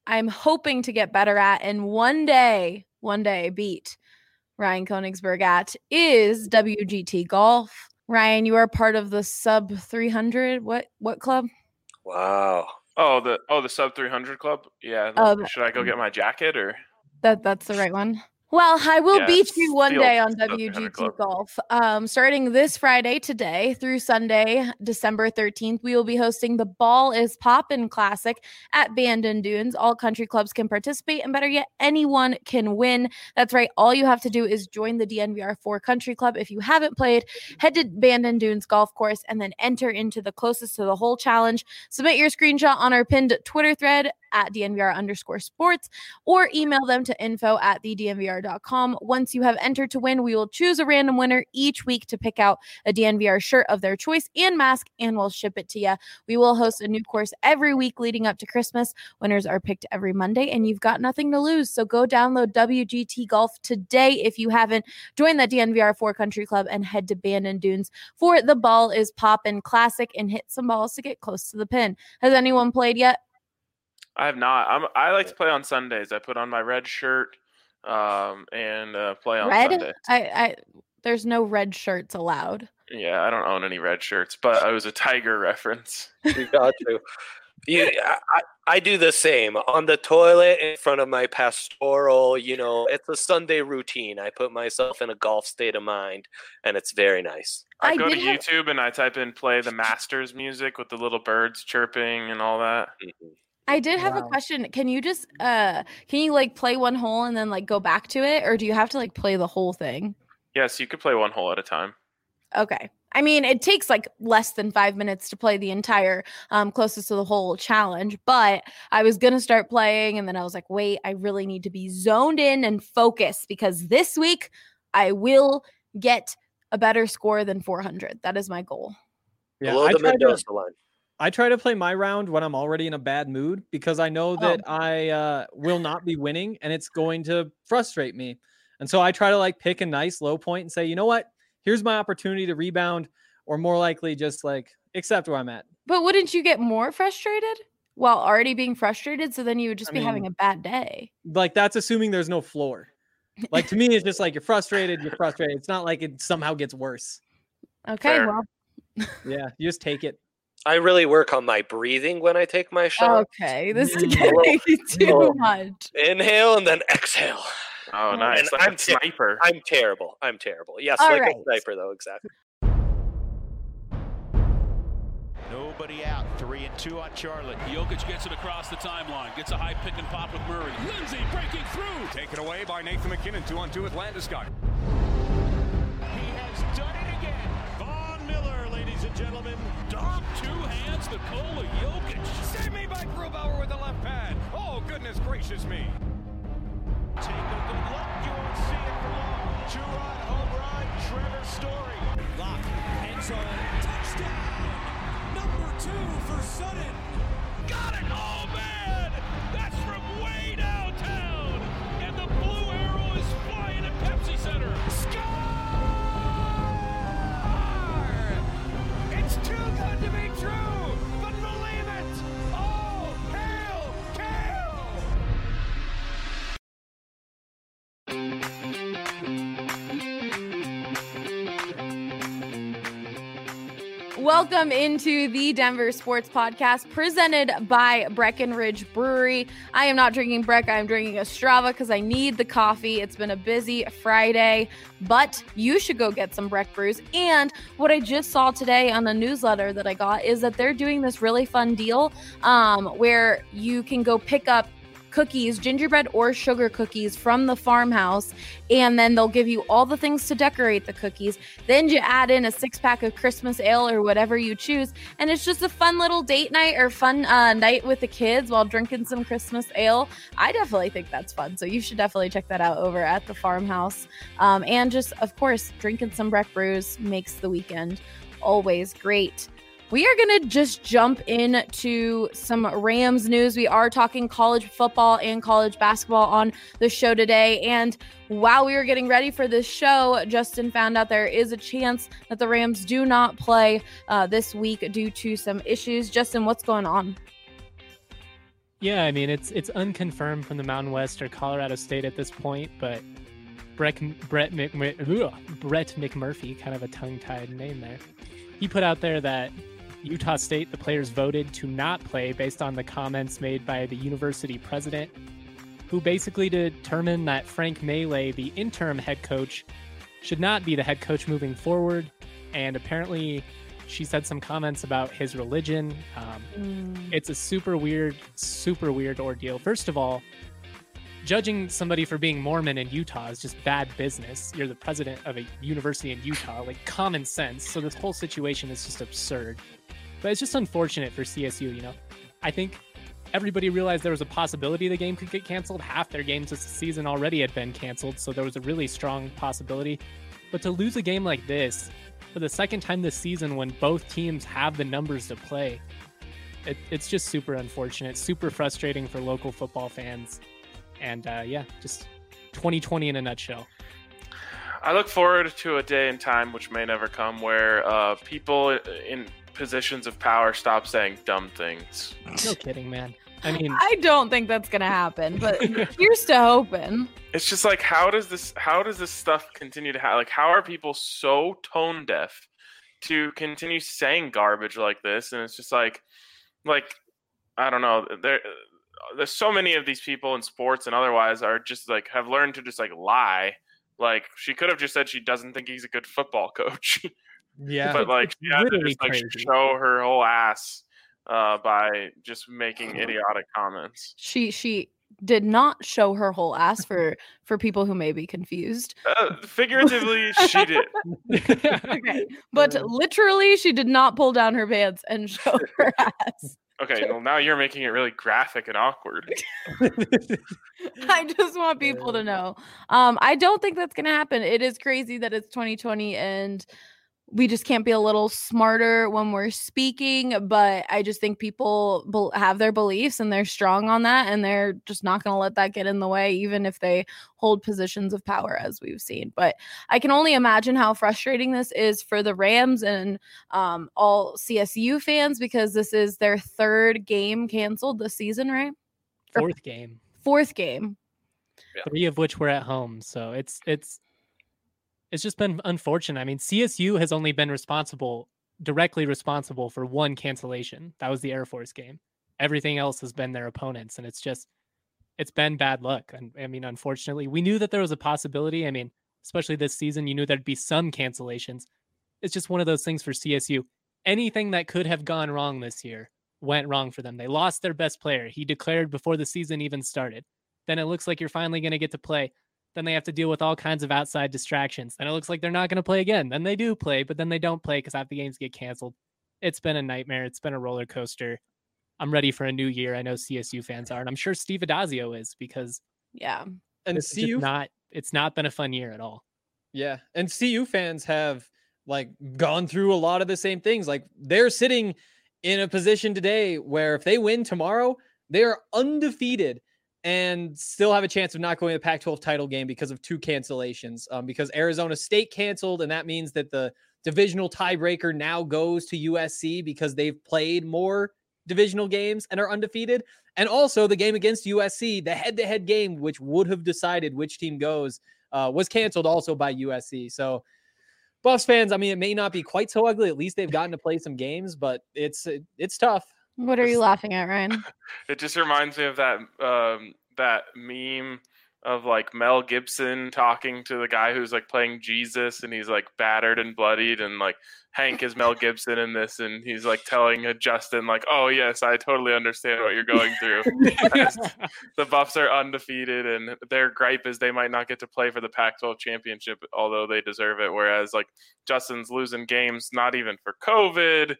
I'm hoping to get better at and one day beat Ryan Koenigsberg at is WGT Golf. Ryan, you are part of the sub 300. What club? Wow. Oh, the sub 300 club. Yeah. Should I go get my jacket or? That's the right one. Well, I will beat you one day on WGT Golf. Starting this Friday today through Sunday, December 13th, we will be hosting the Ball is Poppin' Classic at Bandon Dunes. All country clubs can participate, and better yet, anyone can win. That's right. All you have to do is join the DNVR 4 Country Club. If you haven't played, head to Bandon Dunes Golf Course and then enter into the closest to the hole challenge. Submit your screenshot on our pinned Twitter thread at DNVR_sports or email them to info@thednvr.com. Once you have entered to win, we will choose a random winner each week to pick out a DNVR shirt of their choice and mask, and we'll ship it to you. We will host a new course every week leading up to Christmas. Winners are picked every Monday, and you've got nothing to lose. So go download WGT Golf today if you haven't. Join the DNVR 4 Country Club and head to Bandon Dunes for the Ball is Poppin' Classic and hit some balls to get close to the pin. Has anyone played yet? I have not. I like to play on Sundays. I put on my red shirt and play on Sundays. There's no red shirts allowed. Yeah, I don't own any red shirts, but it was a Tiger reference. You got to. I do the same. On the toilet in front of my pastoral, it's a Sunday routine. I put myself in a golf state of mind, and it's very nice. I go to YouTube and I type in play the Masters music with the little birds chirping and all that. Mm-hmm. I did have a question. Can you just play one hole and then go back to it, or do you have to play the whole thing? Yes, you could play one hole at a time. Okay. I mean, it takes less than 5 minutes to play the entire closest to the hole challenge, but I was going to start playing and then I was like, wait, I really need to be zoned in and focused because this week I will get a better score than 400. That is my goal. Yeah, I try to play my round when I'm already in a bad mood because I know that I will not be winning and it's going to frustrate me. And so I try to pick a nice low point and say, you know what? Here's my opportunity to rebound, or more likely just accept where I'm at. But wouldn't you get more frustrated while already being frustrated? So then you would just be having a bad day. That's assuming there's no floor. To me, it's just you're frustrated. It's not like it somehow gets worse. Okay, well. Yeah, you just take it. I really work on my breathing when I take my shot. Okay, this is getting too much. Inhale and then exhale. Oh, nice. I'm sniper. I'm terrible. Yes, all a sniper, though, exactly. Nobody out. 3-2 on Charlotte. Jokic gets it across the timeline. Gets a high pick and pop with Murray. Lindsay breaking through. Taken away by Nathan McKinnon. 2-on-2 with Landeskog. He has done it again. Von Miller, ladies and gentlemen. Dom, two hands, Nikola Jokic. Save me by Grubauer with the left pad. Oh, goodness gracious me. Take a good look. You won't see it for long. Two-run home run, Trevor Story. Lock, end zone, touchdown. Number 2 for Sutton. Got it. Oh, man. That's from way downtown. And the blue arrow is flying at Pepsi Center. Score! It's too good to be true, but believe it. Oh, hail, Kale! Welcome into the Denver Sports Podcast presented by Breckenridge Brewery. I am not drinking Breck. I am drinking a Strava because I need the coffee. It's been a busy Friday, but you should go get some Breck brews. And what I just saw today on a newsletter that I got is that they're doing this really fun deal where you can go pick up cookies, gingerbread or sugar cookies from the farmhouse, and then they'll give you all the things to decorate the cookies. Then you add in a 6-pack of Christmas ale or whatever you choose, and it's just a fun little date night or fun night with the kids while drinking some Christmas ale. I definitely think that's fun, so you should definitely check that out over at the farmhouse. And just, of course, drinking some Breck brews makes the weekend always great. We are going to just jump into some Rams news. We are talking college football and college basketball on the show today. And while we were getting ready for this show, Justin found out there is a chance that the Rams do not play this week due to some issues. Justin, what's going on? Yeah, I mean, it's unconfirmed from the Mountain West or Colorado State at this point, but Brett McMurphy, kind of a tongue-tied name there, he put out there that Utah State, the players voted to not play based on the comments made by the university president, who basically determined that Frank Maile, the interim head coach, should not be the head coach moving forward. And apparently she said some comments about his religion. It's a super weird ordeal. First of all, judging somebody for being Mormon in Utah is just bad business. You're the president of a university in Utah, like common sense. So this whole situation is just absurd. But it's just unfortunate for CSU, you know. I think everybody realized there was a possibility the game could get canceled. Half their games this season already had been canceled, so there was a really strong possibility. But to lose a game like this for the second time this season when both teams have the numbers to play, it's just super unfortunate, super frustrating for local football fans. And just 2020 in a nutshell. I look forward to a day and time, which may never come, where people in positions of power stop saying dumb things. No kidding, man. I mean, I don't think that's gonna happen, but here's to hoping. It's just like, how does this stuff continue to happen? Like, how are people so tone deaf to continue saying garbage like this? And it's just like I don't know. There's so many of these people in sports and otherwise are just like have learned to just like lie. Like, she could have just said she doesn't think he's a good football coach. Yeah, but like she had to just like show her whole ass by just making idiotic comments. She did not show her whole ass for people who may be confused. Figuratively, she did. Okay. But literally, she did not pull down her pants and show her ass. Okay, well, now you're making it really graphic and awkward. I just want people to know. I don't think that's going to happen. It is crazy that it's 2020 and we just can't be a little smarter when we're speaking, but I just think people have their beliefs and they're strong on that, and they're just not going to let that get in the way, even if they hold positions of power, as we've seen. But I can only imagine how frustrating this is for the Rams and all CSU fans, because this is their third game canceled this season, right? Fourth game. Yeah. 3 of which were at home. So it's just been unfortunate. I mean, CSU has only been directly responsible for one cancellation. That was the Air Force game. Everything else has been their opponents, and it's been bad luck. And I mean, unfortunately, we knew that there was a possibility. I mean, especially this season, you knew there'd be some cancellations. It's just one of those things for CSU. Anything that could have gone wrong this year went wrong for them. They lost their best player. He declared before the season even started. Then it looks like you're finally going to get to play. Then they have to deal with all kinds of outside distractions. Then it looks like they're not going to play again. Then they do play, but then they don't play because half the games get canceled. It's been a nightmare. It's been a roller coaster. I'm ready for a new year. I know CSU fans are, and I'm sure Steve Adazio is, because and it's not been a fun year at all. Yeah, and CU fans have like gone through a lot of the same things. Like, they're sitting in a position today where if they win tomorrow, they are undefeated and still have a chance of not going to the Pac-12 title game because of 2 cancellations. Because Arizona State canceled, and that means that the divisional tiebreaker now goes to USC because they've played more divisional games and are undefeated. And also the game against USC, the head-to-head game, which would have decided which team goes, was canceled also by USC. So Buffs fans, I mean, it may not be quite so ugly. At least they've gotten to play some games, but it's tough. What are you laughing at, Ryan? It just reminds me of that meme of like Mel Gibson talking to the guy who's like playing Jesus, and he's like battered and bloodied, and like Hank is Mel Gibson in this, and he's like telling Justin like, "Oh yes, I totally understand what you're going through." The Buffs are undefeated, and their gripe is they might not get to play for the Pac-12 championship, although they deserve it. Whereas like Justin's losing games, not even for COVID.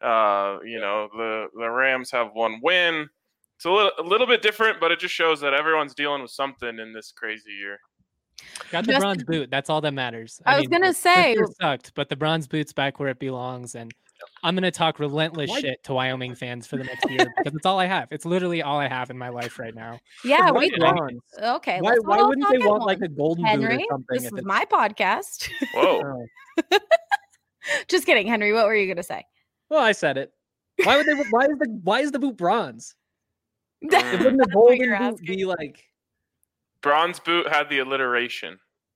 The Rams have one win. It's a little bit different, but it just shows that everyone's dealing with something in this crazy year. Got the bronze boot. That's all that matters. I was going to say. It sucked, but the bronze boot's back where it belongs. And I'm going to talk relentless shit to Wyoming fans for the next year because it's all I have. It's literally all I have in my life right now. Yeah. Okay. Why wouldn't they want like a golden boot or something? This is my podcast. Whoa. Just kidding. Henry, what were you going to say? Well, I said it. Why is the boot bronze? Wouldn't the golden boot be like bronze boot had the alliteration?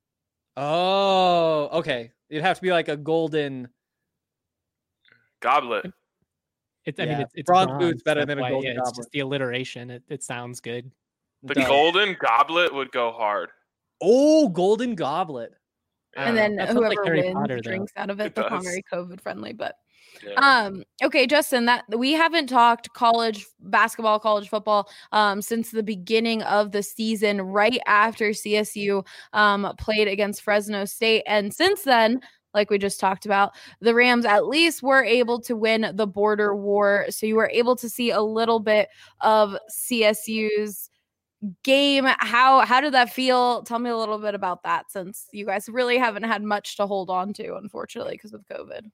Oh, okay. It'd have to be like a golden goblet. I mean, it's bronze boot's better than a why, golden goblet. It's just the alliteration. It sounds good. The golden goblet would go hard. Oh, golden goblet. And then That sounds whoever like Harry wins Potter, drinks out of it. It That's not does. very COVID friendly, but Yeah. okay, Justin, that we haven't talked college basketball, college football since the beginning of the season, right after CSU played against Fresno State. And since then, like we just talked about, the Rams at least were able to win the border war. So you were able to see a little bit of CSU's game. How did that feel? Tell me a little bit about that, since you guys really haven't had much to hold on to, unfortunately, because of COVID.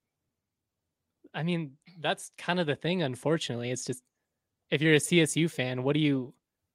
I mean, that's kind of the thing, unfortunately. It's just, if you're a CSU fan, what do you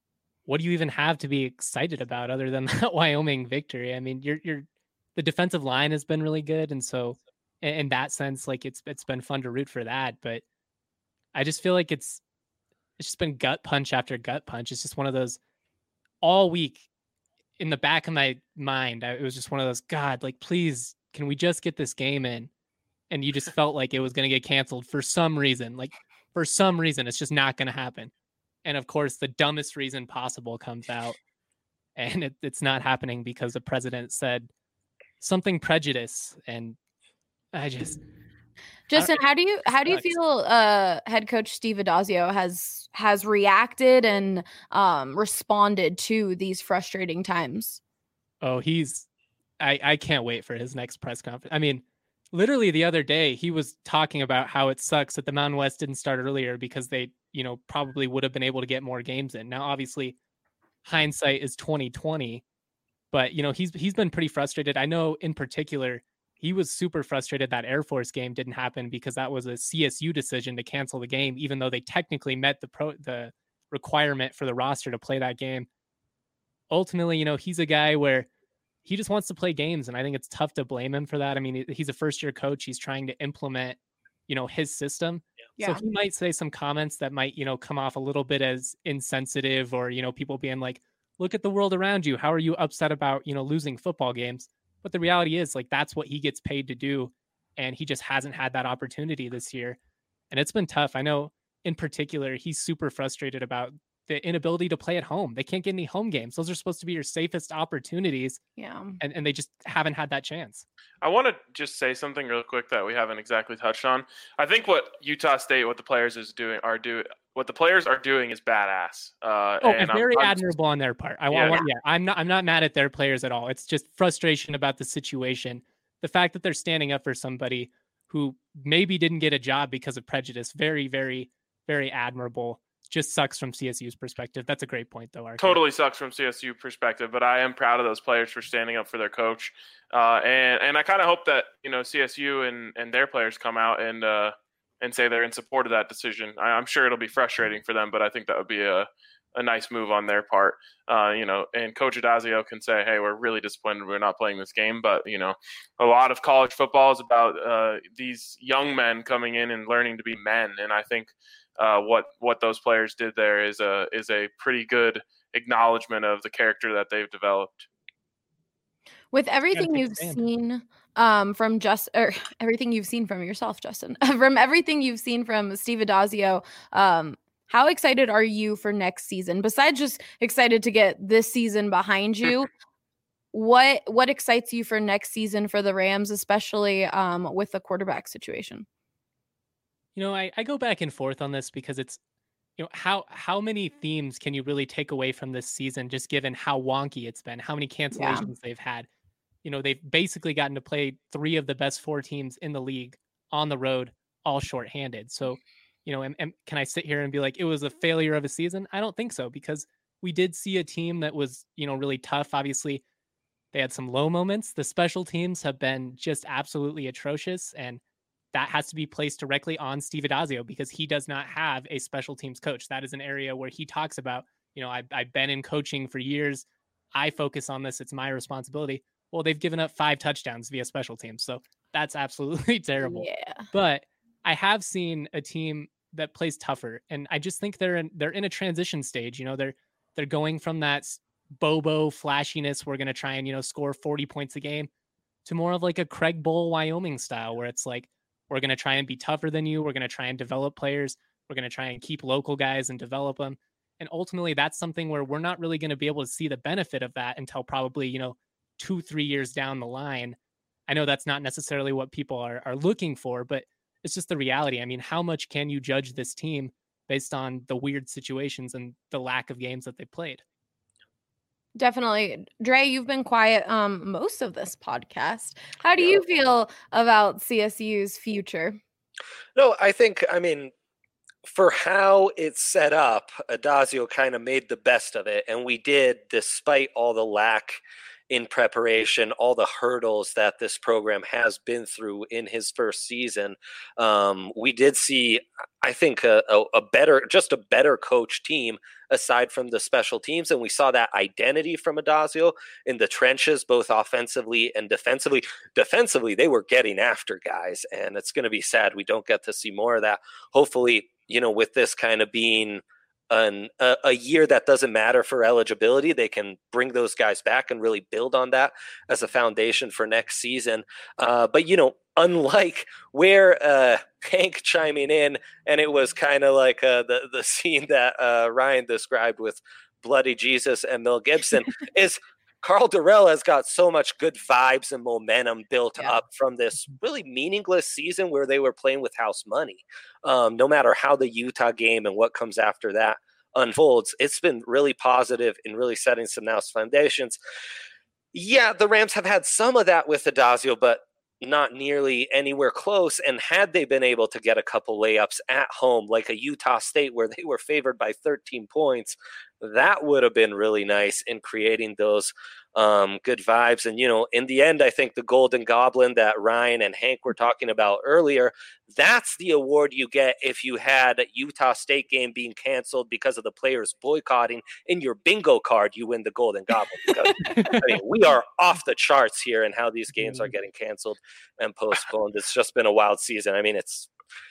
even have to be excited about other than that Wyoming victory? I mean, the defensive line has been really good, and so in that sense, like it's been fun to root for that. But I just feel like it's just been gut punch after gut punch. It's just one of those all week in the back of my mind. It was just one of those, God, like, please, can we just get this game in? And you just felt like it was going to get canceled for some reason. Like, for some reason, it's just not going to happen. And of course, the dumbest reason possible comes out, and it's not happening because the president said something prejudice. And I just, Justin, how do you feel head coach Steve Addazio has reacted and responded to these frustrating times? Oh, I can't wait for his next press conference. I mean, literally the other day, he was talking about how it sucks that the Mountain West didn't start earlier because they, probably would have been able to get more games in. Now, obviously, hindsight is 2020, but he's been pretty frustrated. I know in particular, he was super frustrated that Air Force game didn't happen because that was a CSU decision to cancel the game, even though they technically met the requirement for the roster to play that game. Ultimately, he's a guy where he just wants to play games, and I think it's tough to blame him for that. I mean, he's a first-year coach. He's trying to implement, his system. Yeah. So he might say some comments that might, come off a little bit as insensitive, or, people being like, look at the world around you. How are you upset about, losing football games? But the reality is, like, that's what he gets paid to do, and he just hasn't had that opportunity this year. And it's been tough. I know in particular, he's super frustrated about the inability to play at home. They can't get any home games. Those are supposed to be your safest opportunities. Yeah. And they just haven't had that chance. I want to just say something real quick that we haven't exactly touched on. I think what Utah State, what the players are doing is badass. And very admirable on their part. I'm not mad at their players at all. It's just frustration about the situation. The fact that they're standing up for somebody who maybe didn't get a job because of prejudice. Very, very, very admirable. Just sucks from CSU's perspective. That's a great point, though. Archie. Totally sucks from CSU perspective, but I am proud of those players for standing up for their coach. And I kind of hope that CSU and their players come out and say they're in support of that decision. I'm sure it'll be frustrating for them, but I think that would be a nice move on their part. And Coach Addazio can say, "Hey, we're really disappointed we're not playing this game." But a lot of college football is about these young men coming in and learning to be men, and I think. What those players did there is a pretty good acknowledgement of the character that they've developed. With everything you've seen everything you've seen from yourself, Justin, from everything you've seen from Steve Addazio, how excited are you for next season? Besides just excited to get this season behind you, what excites you for next season for the Rams, especially with the quarterback situation? I go back and forth on this because it's, how many themes can you really take away from this season, just given how wonky it's been, how many cancellations they've had. They've basically gotten to play 3 of the best 4 teams in the league on the road, all shorthanded. So, and can I sit here and be like, it was a failure of a season? I don't think so, because we did see a team that was, really tough. Obviously, they had some low moments. The special teams have been just absolutely atrocious, and that has to be placed directly on Steve Addazio because he does not have a special teams coach. That is an area where he talks about, I've been in coaching for years. I focus on this. It's my responsibility. Well, they've given up 5 touchdowns via special teams. So that's absolutely terrible. Yeah. But I have seen a team that plays tougher. And I just think they're in a transition stage. They're going from that Bobo flashiness, we're going to try and, score 40 points a game, to more of like a Craig Bowl, Wyoming style, where it's like, we're going to try and be tougher than you. We're going to try and develop players. We're going to try and keep local guys and develop them. And ultimately, that's something where we're not really going to be able to see the benefit of that until probably, 2-3 years down the line. I know that's not necessarily what people are looking for, but it's just the reality. I mean, how much can you judge this team based on the weird situations and the lack of games that they played? Definitely. Dre, you've been quiet most of this podcast. How do you feel about CSU's future? No, I mean, for how it's set up, Addazio kind of made the best of it. And we did, despite all the lack in preparation, all the hurdles that this program has been through in his first season. We did see, I think, a better coach team aside from the special teams. And we saw that identity from Addazio in the trenches, both offensively and defensively. Defensively, they were getting after guys, and it's going to be sad we don't get to see more of that. Hopefully, with this kind of being a year that doesn't matter for eligibility, they can bring those guys back and really build on that as a foundation for next season. But unlike where Hank chiming in, and it was kind of like the scene that Ryan described with Bloody Jesus and Mel Gibson, is Karl Dorrell has got so much good vibes and momentum built up from this really meaningless season where they were playing with house money. No matter how the Utah game and what comes after that unfolds, it's been really positive and really setting some nice foundations. Yeah, the Rams have had some of that with Addazio, but not nearly anywhere close. And had they been able to get a couple layups at home, like a Utah State where they were favored by 13 points, that would have been really nice in creating those good vibes. And, in the end, I think the Golden Goblin that Ryan and Hank were talking about earlier, that's the award you get if you had a Utah State game being canceled because of the players boycotting. In your bingo card, you win the Golden Goblin. Because, we are off the charts here in how these games are getting canceled and postponed. It's just been a wild season. I mean, it's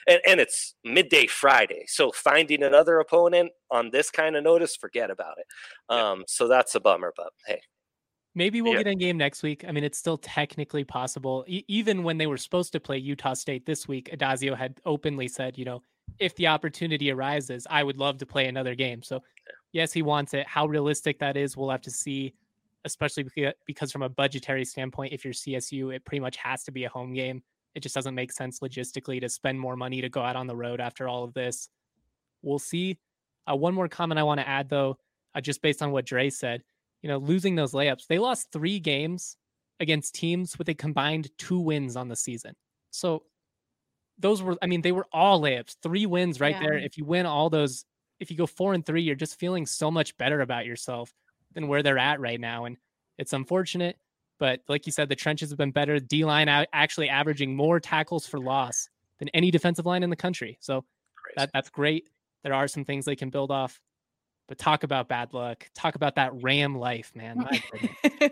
midday Friday, so finding another opponent on this kind of notice, forget about it. So that's a bummer, but hey. Maybe we'll get a game next week. I mean, it's still technically possible. Even when they were supposed to play Utah State this week, Addazio had openly said, if the opportunity arises, I would love to play another game. So yes, he wants it. How realistic that is, we'll have to see, especially because from a budgetary standpoint, if you're CSU, it pretty much has to be a home game. It just doesn't make sense logistically to spend more money to go out on the road after all of this. We'll see. One more comment I want to add, though, just based on what Dre said, losing those layups, they lost 3 games against teams with a combined 2 wins on the season. So those were, they were all layups, 3 wins right there. If you win all those, if you go 4-3, you're just feeling so much better about yourself than where they're at right now. And it's unfortunate. But like you said, the trenches have been better. D-line actually averaging more tackles for loss than any defensive line in the country. So that's great. There are some things they can build off. But talk about bad luck. Talk about that Ram life, man. My goodness.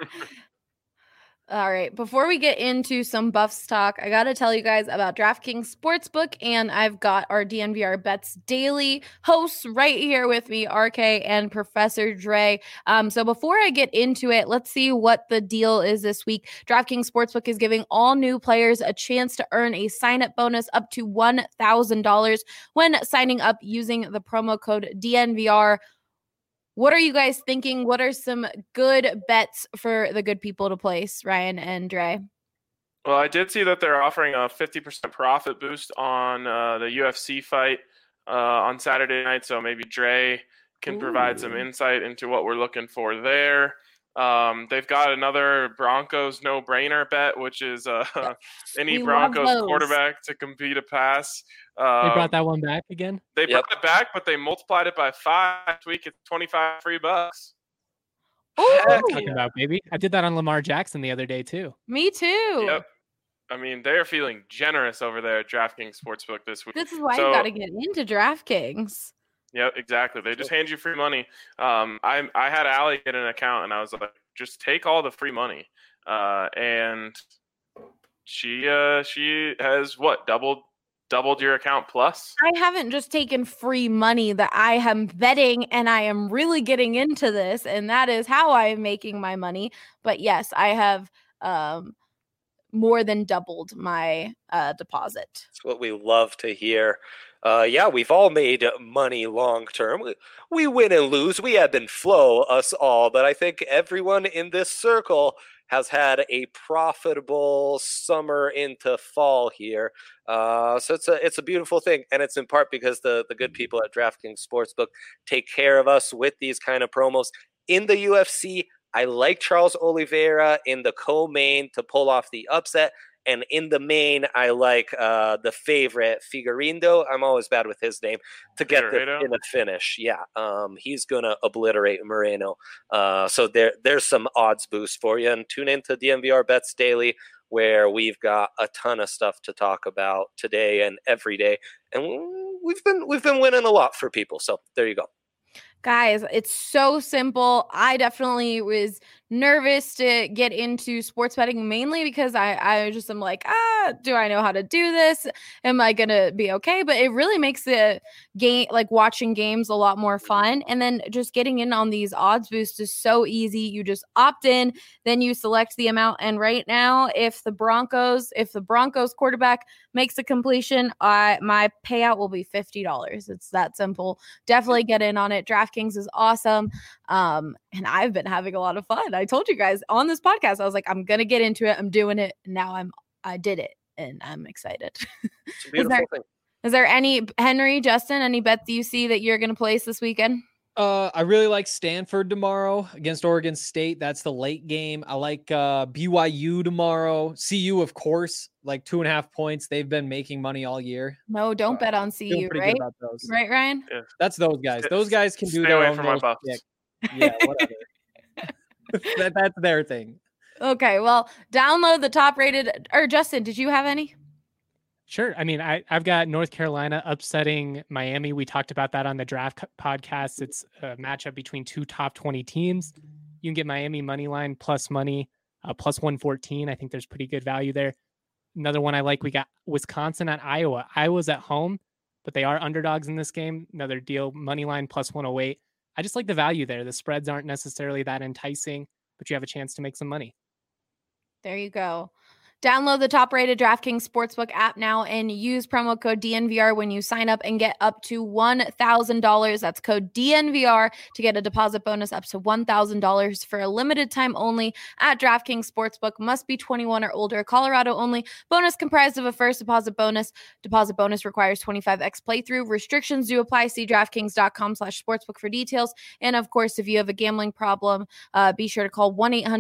All right. Before we get into some Buffs talk, I got to tell you guys about DraftKings Sportsbook, and I've got our DNVR Bets Daily hosts right here with me, RK and Professor Dre. So before I get into it, let's see what the deal is this week. DraftKings Sportsbook is giving all new players a chance to earn a sign-up bonus up to $1,000 when signing up using the promo code DNVR. What are you guys thinking? What are some good bets for the good people to place, Ryan and Dre? Well, I did see that they're offering a 50% profit boost on the UFC fight on Saturday night. So maybe Dre can provide some insight into what we're looking for there. They've got another Broncos no-brainer bet, which is any Broncos quarterback to complete a pass. They brought that one back again? They brought it back, but they multiplied it by 5 this week. It's $25 free bucks. Talking about, baby. I did that on Lamar Jackson the other day, too. Me too. Yep. They're feeling generous over there at DraftKings Sportsbook this week. This is why you got to get into DraftKings. Yeah, exactly. They just hand you free money. I had Allie get an account, and I was like, just take all the free money. And she has doubled doubled your account plus? I haven't just taken free money, that I am betting, and I am really getting into this, and that is how I am making my money. But yes, I have more than doubled my deposit. That's what we love to hear. Yeah, we've all made money long term. We win and lose. We ebb and flow, us all. But I think everyone in this circle has had a profitable summer into fall here. So it's a beautiful thing. And it's in part because the good people at DraftKings Sportsbook take care of us with these kind of promos. In the UFC, I like Charles Oliveira in the co-main to pull off the upset. And in the main, I like the favorite, Figueiredo. I'm always bad with his name, to get in a finish. Yeah, he's going to obliterate Moreno. So there's some odds boost for you. And tune into DNVR Bets Daily, where we've got a ton of stuff to talk about today and every day. And we've been winning a lot for people. So there you go. Guys, it's so simple. I definitely was nervous to get into sports betting, mainly because I just am like, do I know how to do this? Am I going to be okay? But it really makes the game, like watching games, a lot more fun. And then just getting in on these odds boosts is so easy. You just opt in, then you select the amount. And right now, if the Broncos quarterback makes a completion, my payout will be $50. It's that simple. Definitely get in on it. DraftKings is awesome. And I've been having a lot of fun. I told you guys on this podcast, I was like, I'm going to get into it. I'm doing it. Now I did it and I'm excited. It's a beautiful thing. Is there any, Henry, Justin, any bets you see that you're going to place this weekend? I really like Stanford tomorrow against Oregon State. That's the late game. I like BYU tomorrow. CU, of course, like 2.5 points. They've been making money all year. No, don't bet on CU, right? Right, Ryan? Yeah. That's those guys. Those guys can do Stay their away own from my Buffs. Yeah, whatever. That's their thing. Okay, well, download the top rated. Or Justin, did you have any? Sure. I mean, I've got North Carolina upsetting Miami. We talked about that on the draft podcast. It's a matchup between two top 20 teams. You can get Miami money line plus money, plus 114. I think there's pretty good value there. Another one I like, we got Wisconsin at Iowa. Iowa's at home, but they are underdogs in this game. Another deal, money line plus 108. I just like the value there. The spreads aren't necessarily that enticing, but you have a chance to make some money. There you go. Download the top-rated DraftKings Sportsbook app now and use promo code DNVR when you sign up and get up to $1,000. That's code DNVR to get a deposit bonus up to $1,000 for a limited time only at DraftKings Sportsbook. Must be 21 or older. Colorado only. Bonus comprised of a first deposit bonus. Deposit bonus requires 25x playthrough. Restrictions do apply. See DraftKings.com/sportsbook for details. And of course, if you have a gambling problem, be sure to call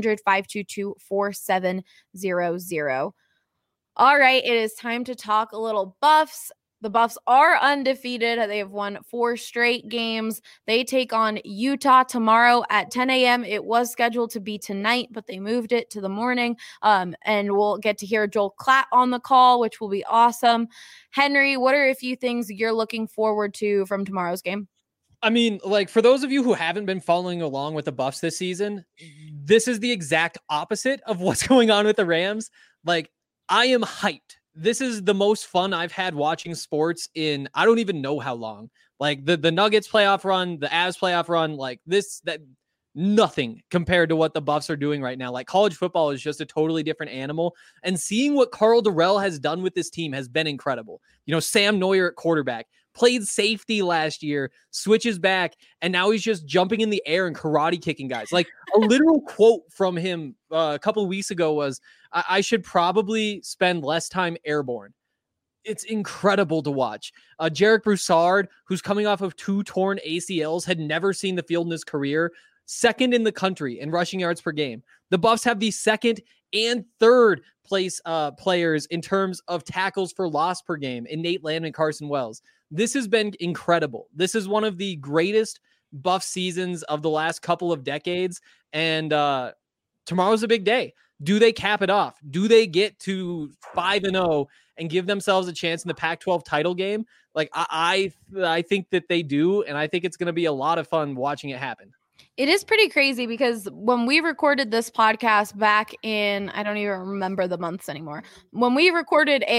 1-800-522-4700. All right, it is time to talk a little Buffs. The Buffs are undefeated. They have won 4 straight games. They take on Utah tomorrow at 10 a.m. It was scheduled to be tonight, but they moved it to the morning. And we'll get to hear Joel Klatt on the call, which will be awesome. Henry, what are a few things you're looking forward to from tomorrow's game? I mean, like, for those of you who haven't been following along with the Buffs this season, this is the exact opposite of what's going on with the Rams. Like, I am hyped. This is the most fun I've had watching sports in I don't even know how long. Like the Nuggets playoff run, the Avs playoff run, like nothing compared to what the Buffs are doing right now. Like, college football is just a totally different animal. And seeing what Carl Durrell has done with this team has been incredible. You know, Sam Neuer at quarterback, played safety last year, switches back, and now he's just jumping in the air and karate kicking guys. Like, a literal quote from him a couple of weeks ago was, I should probably spend less time airborne. It's incredible to watch. Jarek Broussard, who's coming off of 2 torn ACLs, had never seen the field in his career, second in the country in rushing yards per game. The Buffs have the second and third place players in terms of tackles for loss per game in Nate Land and Carson Wells. This has been incredible. This is one of the greatest Buff seasons of the last couple of decades. And tomorrow's a big day. Do they cap it off? Do they get to 5-0 and give themselves a chance in the Pac-12 title game? Like, I think that they do. And I think it's going to be a lot of fun watching it happen. It is pretty crazy because when we recorded this podcast back in, I don't even remember the months anymore. When we recorded a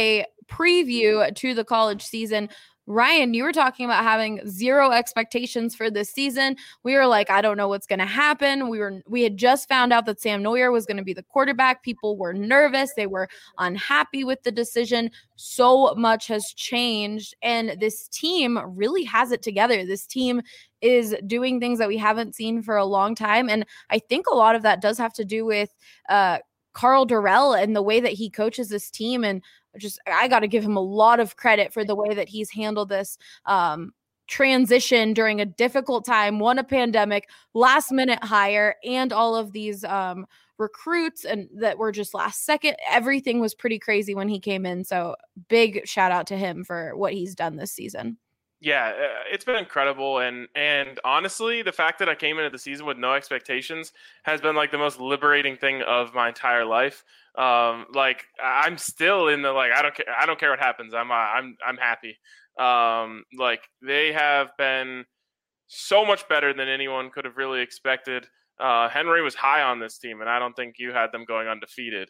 preview to the college season. Ryan, you were talking about having zero expectations for this season. We were like, I don't know what's going to happen. We had just found out that Sam Neuer was going to be the quarterback. People were nervous. They were unhappy with the decision. So much has changed, and this team really has it together. This team is doing things that we haven't seen for a long time, and I think a lot of that does have to do with Karl Dorrell and the way that he coaches this team. And I got to give him a lot of credit for the way that he's handled this transition during a difficult time, won a pandemic, last minute hire, and all of these recruits and that were just last second. Everything was pretty crazy when he came in. So big shout out to him for what he's done this season. Yeah, it's been incredible. And honestly, the fact that I came into the season with no expectations has been like the most liberating thing of my entire life. Like I'm still in the, like, I don't care what happens. I'm happy. Like they have been so much better than anyone could have really expected. Henry was high on this team, and I don't think you had them going undefeated.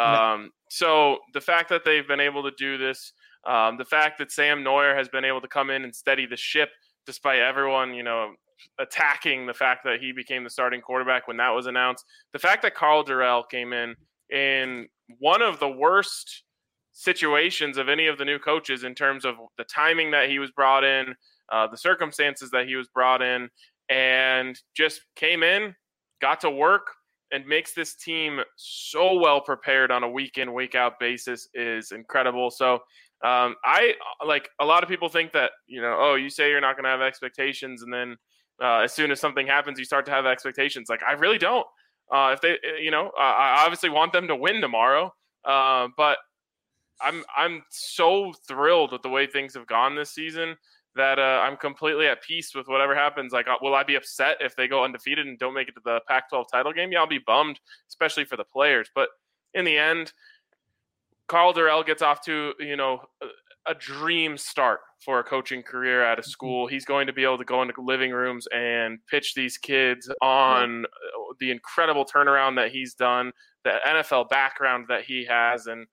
So the fact that they've been able to do this, the fact that Sam Neuer has been able to come in and steady the ship despite everyone, attacking the fact that he became the starting quarterback when that was announced. The fact that Karl Dorrell came in one of the worst situations of any of the new coaches in terms of the timing that he was brought in, the circumstances that he was brought in, and just came in, got to work, and makes this team so well prepared on a week in, week out basis is incredible. So I like, a lot of people think that, you say you're not going to have expectations, and then as soon as something happens, you start to have expectations. Like, I really don't. If they, I obviously want them to win tomorrow, but I'm so thrilled with the way things have gone this season that I'm completely at peace with whatever happens. Like, will I be upset if they go undefeated and don't make it to the Pac-12 title game? Yeah, I'll be bummed, especially for the players. But in the end, Karl Dorrell gets off to, a dream start for a coaching career at a school. He's going to be able to go into living rooms and pitch these kids on the incredible turnaround that he's done, the NFL background that he has, and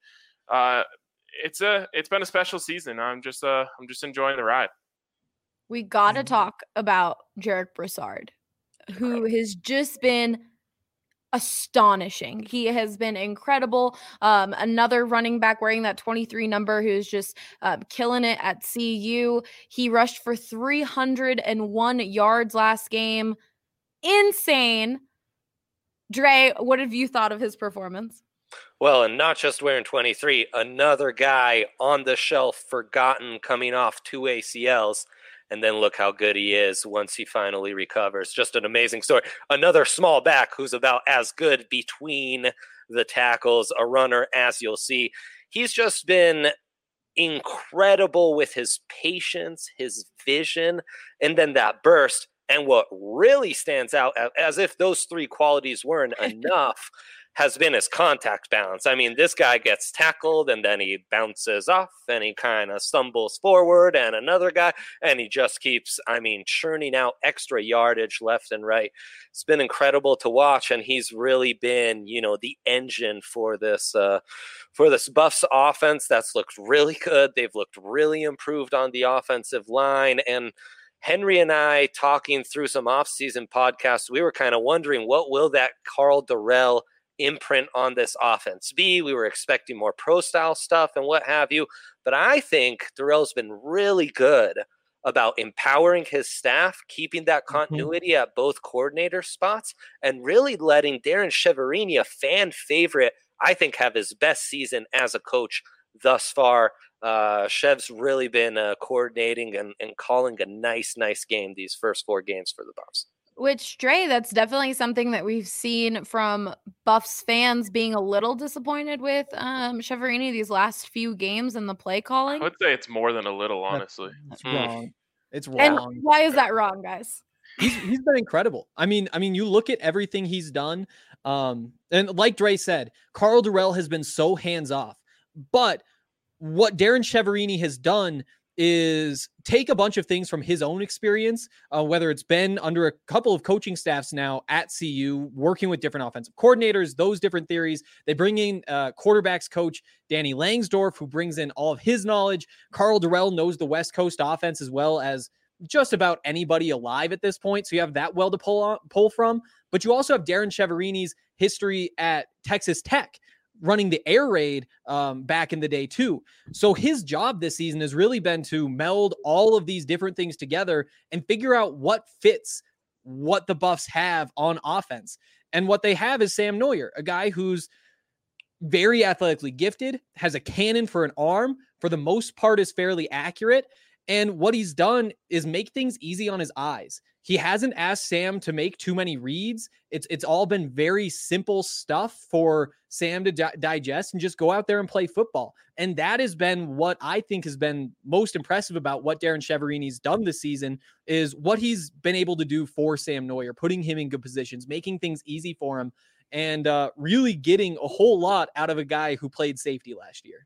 it's been a special season. I'm just enjoying the ride. We got to talk about Jarek Broussard, who has just been astonishing. He has been incredible. Another running back wearing that 23 number who's just killing it at CU. He rushed for 301 yards last game. Insane. Dre, what have you thought of his performance? Well, and not just wearing 23, another guy on the shelf, forgotten, coming off 2 ACLs. And then look how good he is once he finally recovers. Just an amazing story. Another small back who's about as good between the tackles, a runner, as you'll see. He's just been incredible with his patience, his vision, and then that burst. And what really stands out, as if those three qualities weren't enough, has been his contact balance. I mean, this guy gets tackled and then he bounces off and he kind of stumbles forward, and another guy, and he just keeps, churning out extra yardage left and right. It's been incredible to watch, and he's really been, the engine for this Buffs offense that's looked really good. They've looked really improved on the offensive line, and Henry and I, talking through some off-season podcasts, we were kind of wondering, what will that Karl Dorrell imprint on this offense be? We were expecting more pro-style stuff and what have you, but I think Dorrell's been really good about empowering his staff, keeping that continuity at both coordinator spots, and really letting Darren Cheverini, a fan favorite, I think, have his best season as a coach thus far. Chev's really been coordinating and calling a nice game these first 4 games for the Buffs. Which, Dre, that's definitely something that we've seen from Buffs fans being a little disappointed with Cheverini these last few games and the play calling. I would say it's more than a little, honestly. That's wrong. It's wrong. And why is that wrong, guys? He's been incredible. I mean, you look at everything he's done, and like Dre said, Karl Dorrell has been so hands off. But what Darren Cheverini has done is take a bunch of things from his own experience, whether it's been under a couple of coaching staffs now at CU, working with different offensive coordinators, those different theories. They bring in quarterbacks coach Danny Langsdorf, who brings in all of his knowledge. Karl Dorrell knows the West Coast offense as well as just about anybody alive at this point. So you have that well to pull from. But you also have Darren Cheverini's history at Texas Tech, running the air raid back in the day too. So his job this season has really been to meld all of these different things together and figure out what fits what the Buffs have on offense. And what they have is Sam Noyer, a guy who's very athletically gifted, has a cannon for an arm, for the most part is fairly accurate. And what he's done is make things easy on his eyes. He hasn't asked Sam to make too many reads. It's all been very simple stuff for Sam to digest and just go out there and play football. And that has been what I think has been most impressive about what Darren Cheverini's done this season, is what he's been able to do for Sam Noyer, putting him in good positions, making things easy for him, and really getting a whole lot out of a guy who played safety last year.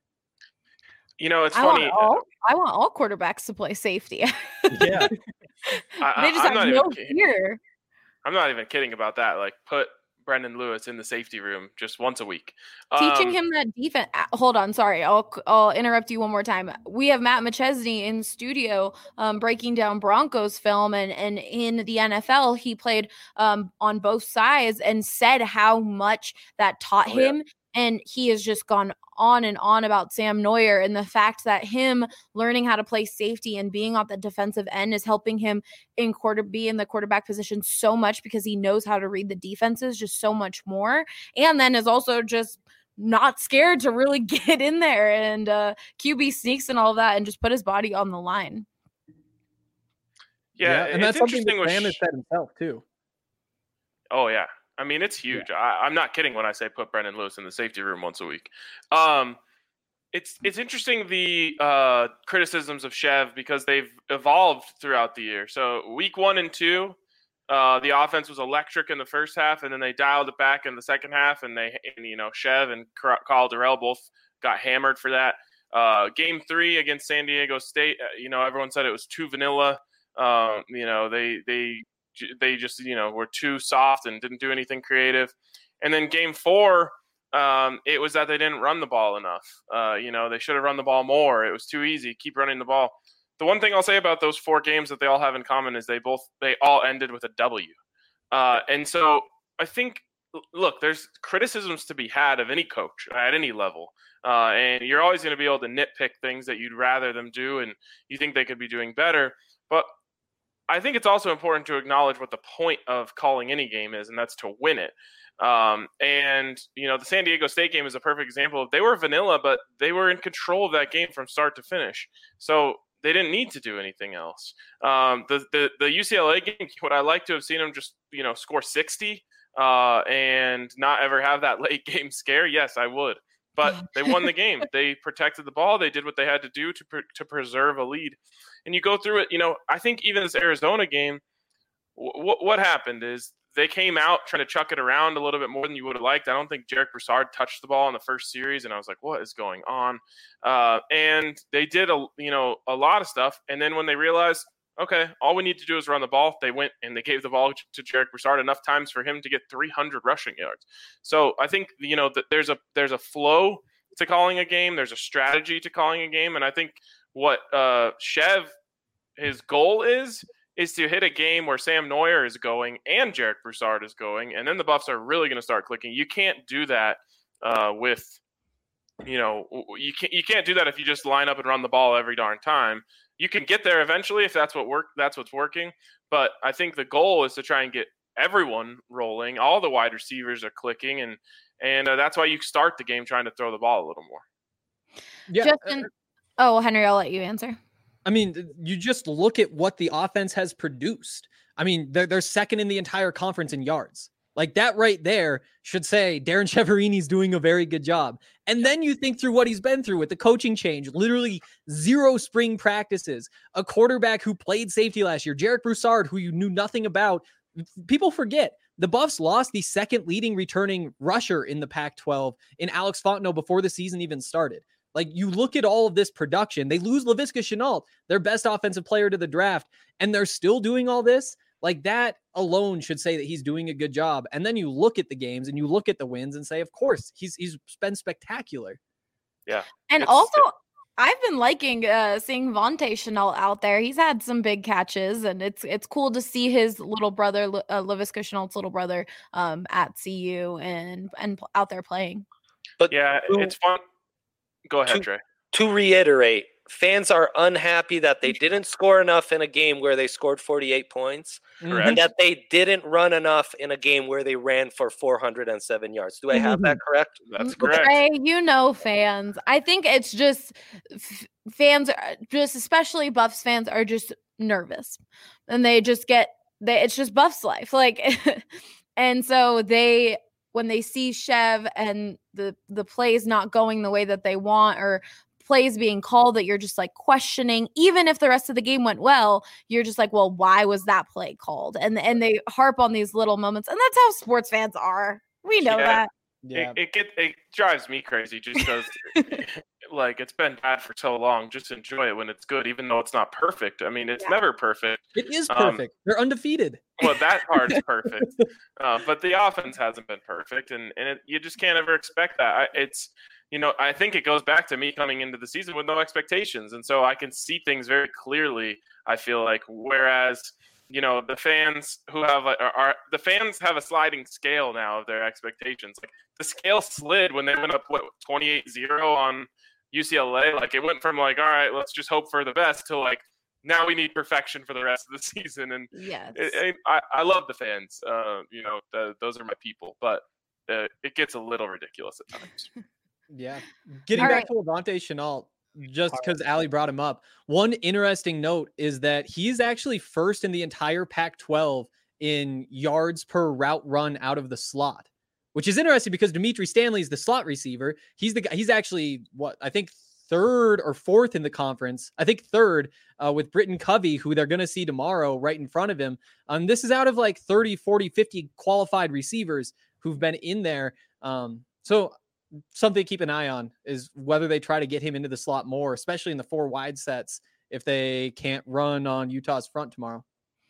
You know, it's funny. I want all quarterbacks to play safety. Yeah. They just have no fear. I'm not even kidding about that. Like, put Brendan Lewis in the safety room just once a week. Teaching him that defense. Hold on. Sorry. I'll interrupt you one more time. We have Matt McChesney in studio breaking down Broncos film. And in the NFL, he played on both sides and said how much that taught him. Yeah. And he has just gone on and on about Sam Noyer and the fact that him learning how to play safety and being on the defensive end is helping him be in the quarterback position so much, because he knows how to read the defenses just so much more. And then is also just not scared to really get in there and QB sneaks and all of that and just put his body on the line. Yeah, and that's something that Sam has said himself too. Oh, yeah. I mean, it's huge. Yeah. I'm not kidding when I say put Brendan Lewis in the safety room once a week. It's interesting, the criticisms of Chev, because they've evolved throughout the year. So week 1 and 2, the offense was electric in the first half, and then they dialed it back in the second half. And Chev and Karl Dorrell both got hammered for that. Game 3 against San Diego State, everyone said it was too vanilla. They just, were too soft and didn't do anything creative. And then game 4, it was that they didn't run the ball enough. They should have run the ball more. It was too easy. Keep running the ball. The one thing I'll say about those 4 games that they all have in common is they all ended with a W. And so I think, look, there's criticisms to be had of any coach at any level. And you're always going to be able to nitpick things that you'd rather them do and you think they could be doing better. But I think it's also important to acknowledge what the point of calling any game is, and that's to win it. The San Diego State game is a perfect example. They were vanilla, but they were in control of that game from start to finish. So they didn't need to do anything else. The UCLA game, would I like to have seen them just, score 60 and not ever have that late game scare? Yes, I would. But they won the game. They protected the ball. They did what they had to do to preserve a lead. And you go through it, I think even this Arizona game, what happened is they came out trying to chuck it around a little bit more than you would have liked. I don't think Jarek Broussard touched the ball in the first series, and I was like, what is going on? And they did a lot of stuff. And then when they realized, okay, all we need to do is run the ball, they went and they gave the ball to Jarek Broussard enough times for him to get 300 rushing yards. So I think, that there's a flow to calling a game. There's a strategy to calling a game. And I think what Chev, his goal is to hit a game where Sam Noyer is going and Jarek Broussard is going, and then the Buffs are really going to start clicking. You can't do that you can't do that if you just line up and run the ball every darn time. You can get there eventually if that's what's working. But I think the goal is to try and get everyone rolling. All the wide receivers are clicking, and that's why you start the game trying to throw the ball a little more. Yeah. Justin, Henry, I'll let you answer. I mean, you just look at what the offense has produced. I mean, they're second in the entire conference in yards. Like, that right there should say Darren Cheverini's doing a very good job. And then you think through what he's been through with the coaching change, literally 0 spring practices, a quarterback who played safety last year, Jarek Broussard, who you knew nothing about. People forget the Buffs lost the second leading returning rusher in the Pac-12 in Alex Fontenot before the season even started. Like, you look at all of this production, they lose Laviska Shenault, their best offensive player to the draft, and they're still doing all this. Like, that alone should say that he's doing a good job. And then you look at the games and you look at the wins and say, of course, he's been spectacular. Yeah. And also, I've been liking seeing Vontae Shenault out there. He's had some big catches, and it's cool to see his little brother, Laviska Shenault's little brother, at CU and out there playing. But yeah, it's fun. Go ahead, Trey. To reiterate, fans are unhappy that they didn't score enough in a game where they scored 48 points, and that they didn't run enough in a game where they ran for 407 yards. Do I have that correct? That's correct. Trey, fans. I think it's just fans, just especially Buffs fans, are just nervous, and they just it's just Buffs life. Like, and so when they see Chev and the plays not going the way that they want, or plays being called that you're just like questioning, even if the rest of the game went well, you're just like, well, why was that play called? And they harp on these little moments, and that's how sports fans are. We know that. Yeah. It drives me crazy just because like, it's been bad for so long. Just enjoy it when it's good, even though it's not perfect. I mean, it's never perfect. It is perfect. They're undefeated. Well, that part's perfect. But the offense hasn't been perfect, and you just can't ever expect that. I think it goes back to me coming into the season with no expectations. And so I can see things very clearly, I feel like, whereas, the fans who have the fans have a sliding scale now of their expectations. Like, the scale slid when they went up 28-0 on UCLA. Like, it went from like, all right, let's just hope for the best, to like, now we need perfection for the rest of the season. And yes, I love the fans. Those are my people, but it gets a little ridiculous at times. Yeah. Getting back to Avonte Shenault, just because Allie brought him up, one interesting note is that he's actually first in the entire Pac-12 in yards per route run out of the slot, which is interesting because Dimitri Stanley is the slot receiver. He's the guy. He's actually I think third or fourth in the conference. I think third with Britton Covey, who they're going to see tomorrow right in front of him. This is out of like 30, 40, 50 qualified receivers who've been in there. So something to keep an eye on is whether they try to get him into the slot more, especially in the 4 wide sets, if they can't run on Utah's front tomorrow.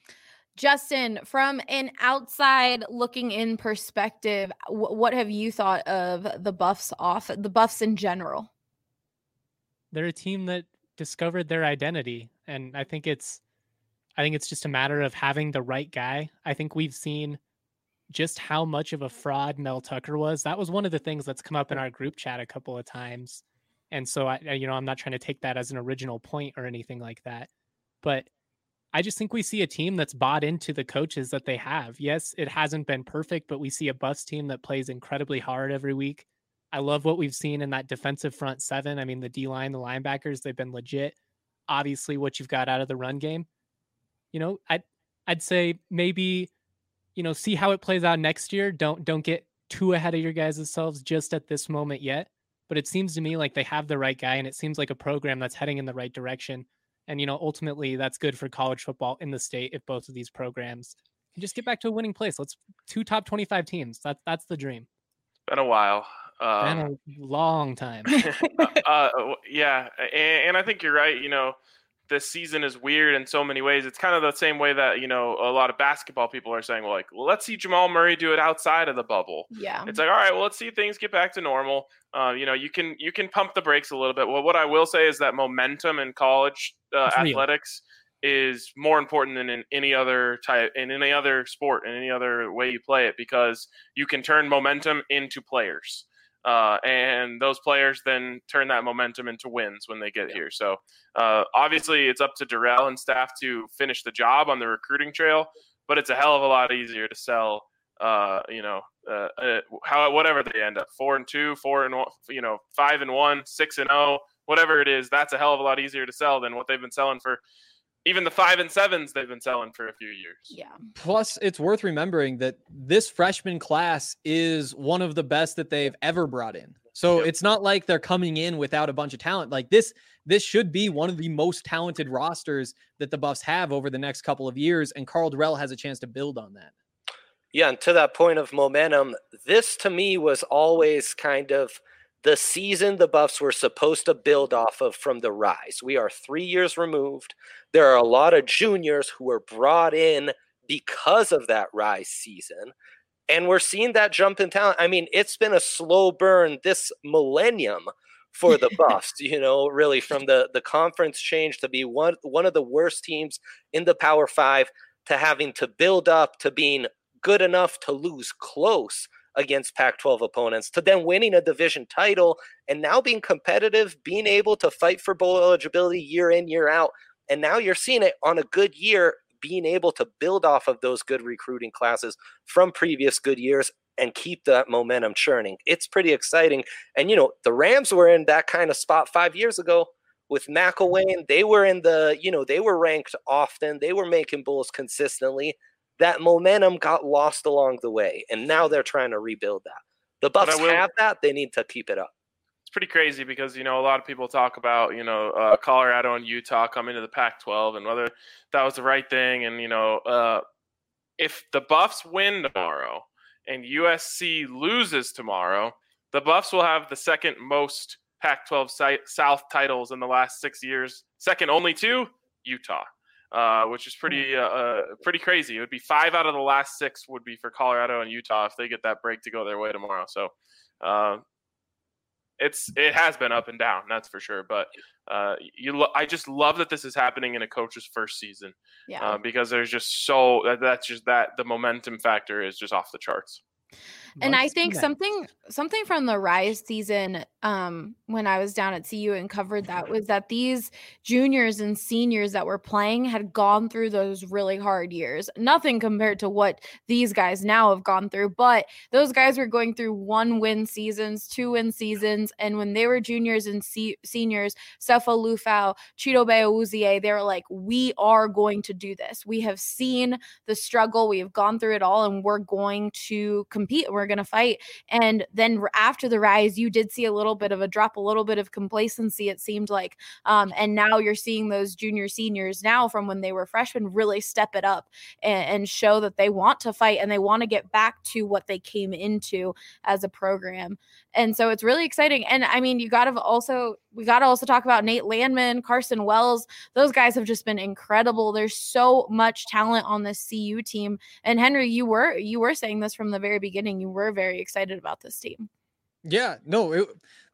Justin, from an outside looking in perspective, what have you thought of the Buffs in general? They're a team that discovered their identity, and I think it's just a matter of having the right guy. I think we've seen just how much of a fraud Mel Tucker was. That was one of the things that's come up in our group chat a couple of times. And so I'm not trying to take that as an original point or anything like that, but I just think we see a team that's bought into the coaches that they have. Yes, it hasn't been perfect, but we see a Buffs team that plays incredibly hard every week. I love what we've seen in that defensive front 7. I mean, the D-line, the linebackers, they've been legit. Obviously, what you've got out of the run game, I'd say maybe, see how it plays out next year. Don't get too ahead of your guys' selves just at this moment yet. But it seems to me like they have the right guy, and it seems like a program that's heading in the right direction. And, ultimately that's good for college football in the state if both of these programs can just get back to a winning place. Let's 2 top 25 teams. That's the dream. It's been a while. Been a long time. Yeah. And I think you're right. This season is weird in so many ways. It's kind of the same way that, a lot of basketball people are saying, well, let's see Jamal Murray do it outside of the bubble. Yeah. It's like, all right, well, let's see things get back to normal. You can pump the brakes a little bit. Well, what I will say is that momentum in college athletics is more important than in any other sport, in any other way you play it, because you can turn momentum into players. And those players then turn that momentum into wins when they get here. So obviously it's up to Darrell and staff to finish the job on the recruiting trail, but it's a hell of a lot easier to sell, whatever they end up, 4-2, 4-1, 5-1, 6-0, whatever it is, that's a hell of a lot easier to sell than what they've been selling for. Even the 5-7s they've been selling for a few years. Yeah. Plus, it's worth remembering that this freshman class is one of the best that they've ever brought in. So It's not like they're coming in without a bunch of talent. Like this should be one of the most talented rosters that the Buffs have over the next couple of years, and Karl Dorrell has a chance to build on that. Yeah, and to that point of momentum, this to me was always kind of the season the Buffs were supposed to build off of from the Rise. We are 3 years removed. There are a lot of juniors who were brought in because of that Rise season. And we're seeing that jump in talent. I mean, it's been a slow burn this millennium for the Buffs, really from the conference change to be one of the worst teams in the Power Five to having to build up to being good enough to lose close against Pac-12 opponents, to then winning a division title and now being competitive, being able to fight for bowl eligibility year in, year out. And now you're seeing it on a good year, being able to build off of those good recruiting classes from previous good years and keep that momentum churning. It's pretty exciting. And, the Rams were in that kind of spot 5 years ago with McElwain. They were in they were ranked often. They were making bowls consistently. That momentum got lost along the way, and now they're trying to rebuild that. The Buffs have that. They need to keep it up. It's pretty crazy because, a lot of people talk about, Colorado and Utah coming to the Pac-12 and whether that was the right thing. And, if the Buffs win tomorrow and USC loses tomorrow, the Buffs will have the second most Pac-12 South titles in the last 6 years, second only to Utah. Which is pretty crazy. It would be 5 out of the last 6 would be for Colorado and Utah if they get that break to go their way tomorrow. So it has been up and down, that's for sure. But I just love that this is happening in a coach's first season. Yeah. Because there's just the momentum factor is just off the charts. And I think something from the Rise season, when I was down at CU and covered that, was that these juniors and seniors that were playing had gone through those really hard years. Nothing compared to what these guys now have gone through, but those guys were going through 1-win seasons, 2-win seasons, and when they were juniors and seniors, Sefo Lufau, Chidobe Awuzie, they were like, we are going to do this. We have seen the struggle. We have gone through it all, and we're going to compete. We're going to fight. And then after the Rise, you did see a little bit of a drop, a little bit of complacency, it seemed like. And now you're seeing those junior seniors now from when they were freshmen really step it up and show that they want to fight and they want to get back to what they came into as a program. And so it's really exciting. And I mean, we got to also talk about Nate Landman, Carson Wells. Those guys have just been incredible. There's so much talent on this CU team. And Henry, you were saying this from the very beginning. You were very excited about this team. Yeah, no,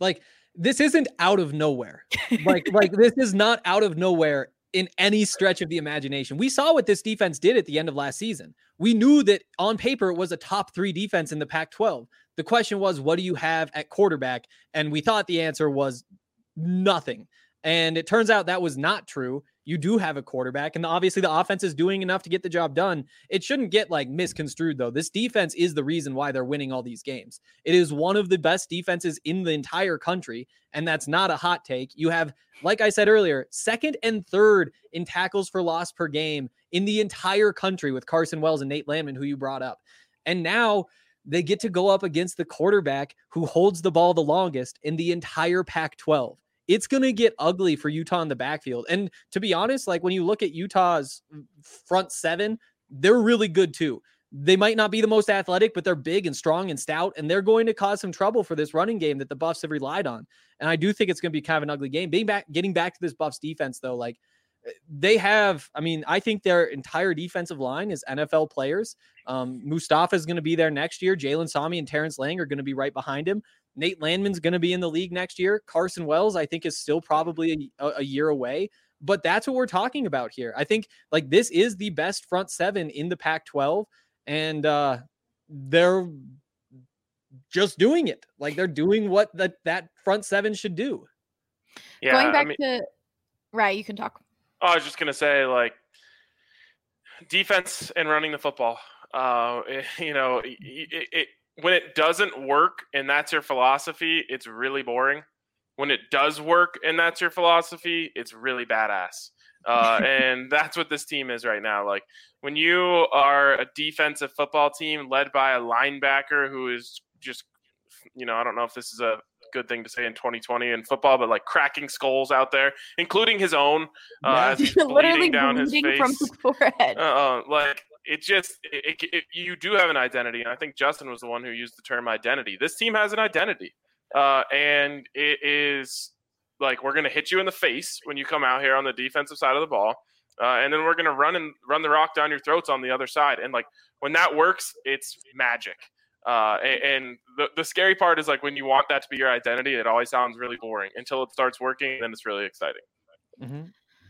this isn't out of nowhere. Like this is not out of nowhere in any stretch of the imagination. We saw what this defense did at the end of last season. We knew that on paper it was a top 3 defense in the Pac-12. The question was, what do you have at quarterback? And we thought the answer was nothing. And it turns out that was not true. You do have a quarterback, and obviously the offense is doing enough to get the job done. It shouldn't get misconstrued, though. This defense is the reason why they're winning all these games. It is one of the best defenses in the entire country, and that's not a hot take. You have, like I said earlier, second and third in tackles for loss per game in the entire country with Carson Wells and Nate Landman, who you brought up. And now they get to go up against the quarterback who holds the ball the longest in the entire Pac-12. It's going to get ugly for Utah in the backfield. And to be honest, when you look at Utah's front 7, they're really good too. They might not be the most athletic, but they're big and strong and stout, and they're going to cause some trouble for this running game that the Buffs have relied on. And I do think it's going to be kind of an ugly game. Getting back to this Buffs defense, though, they have, I think their entire defensive line is NFL players. Mustafa is going to be there next year. Jalen Sami and Terrence Lang are going to be right behind him. Nate Landman's going to be in the league next year. Carson Wells, I think, is still probably a year away. But that's what we're talking about here. I think this is the best front 7 in the Pac-12, and they're just doing it. They're doing what that front 7 should do. Yeah, going back to right, you can talk. I was just gonna say, defense and running the football. When it doesn't work and that's your philosophy, it's really boring. When it does work and that's your philosophy, it's really badass. And that's what this team is right now. When you are a defensive football team led by a linebacker who is just, I don't know if this is a good thing to say in 2020 in football, but cracking skulls out there, including his own, as he's bleeding down his face from the forehead. You do have an identity. And I think Justin was the one who used the term identity. This team has an identity. and it is like we're going to hit you in the face when you come out here on the defensive side of the ball, and then we're going to run the rock down your throats on the other side. And like when that works, it's magic. And the scary part is like when you want that to be your identity, it always sounds really boring until it starts working, and then it's really exciting. Mm-hmm.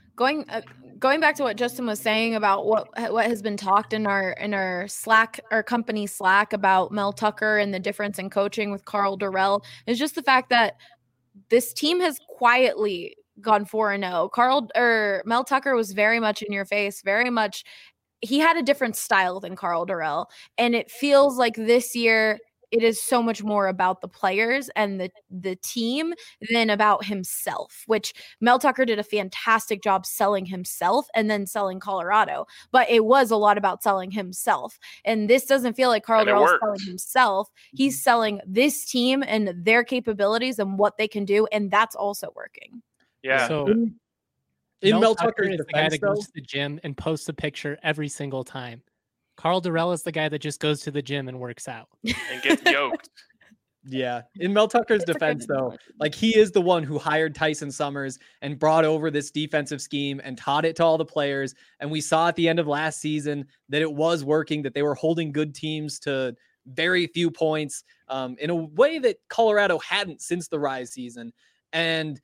Going back to what Justin was saying about what has been talked in our Slack, our company Slack, about Mel Tucker and the difference in coaching with Karl Dorrell, is just the fact that this team has quietly gone 4-0. Mel Tucker was very much in your face, very much. He had a different style than Karl Dorrell, and it feels like this year it is so much more about the players and the team than about himself, which Mel Tucker did a fantastic job selling himself and then selling Colorado. But it was a lot about selling himself. And this doesn't feel like Karl Dorrell is selling himself. He's selling this team and their capabilities and what they can do. And that's also working. Yeah. So Mel Tucker is the guy that goes to the gym and posts a picture every single time. Karl Dorrell is the guy that just goes to the gym and works out and gets yoked. Yeah. In Mel Tucker's defense, though, like he is the one who hired Tyson Summers and brought over this defensive scheme and taught it to all the players. And we saw at the end of last season that it was working, that they were holding good teams to very few points in a way that Colorado hadn't since the Rise season. And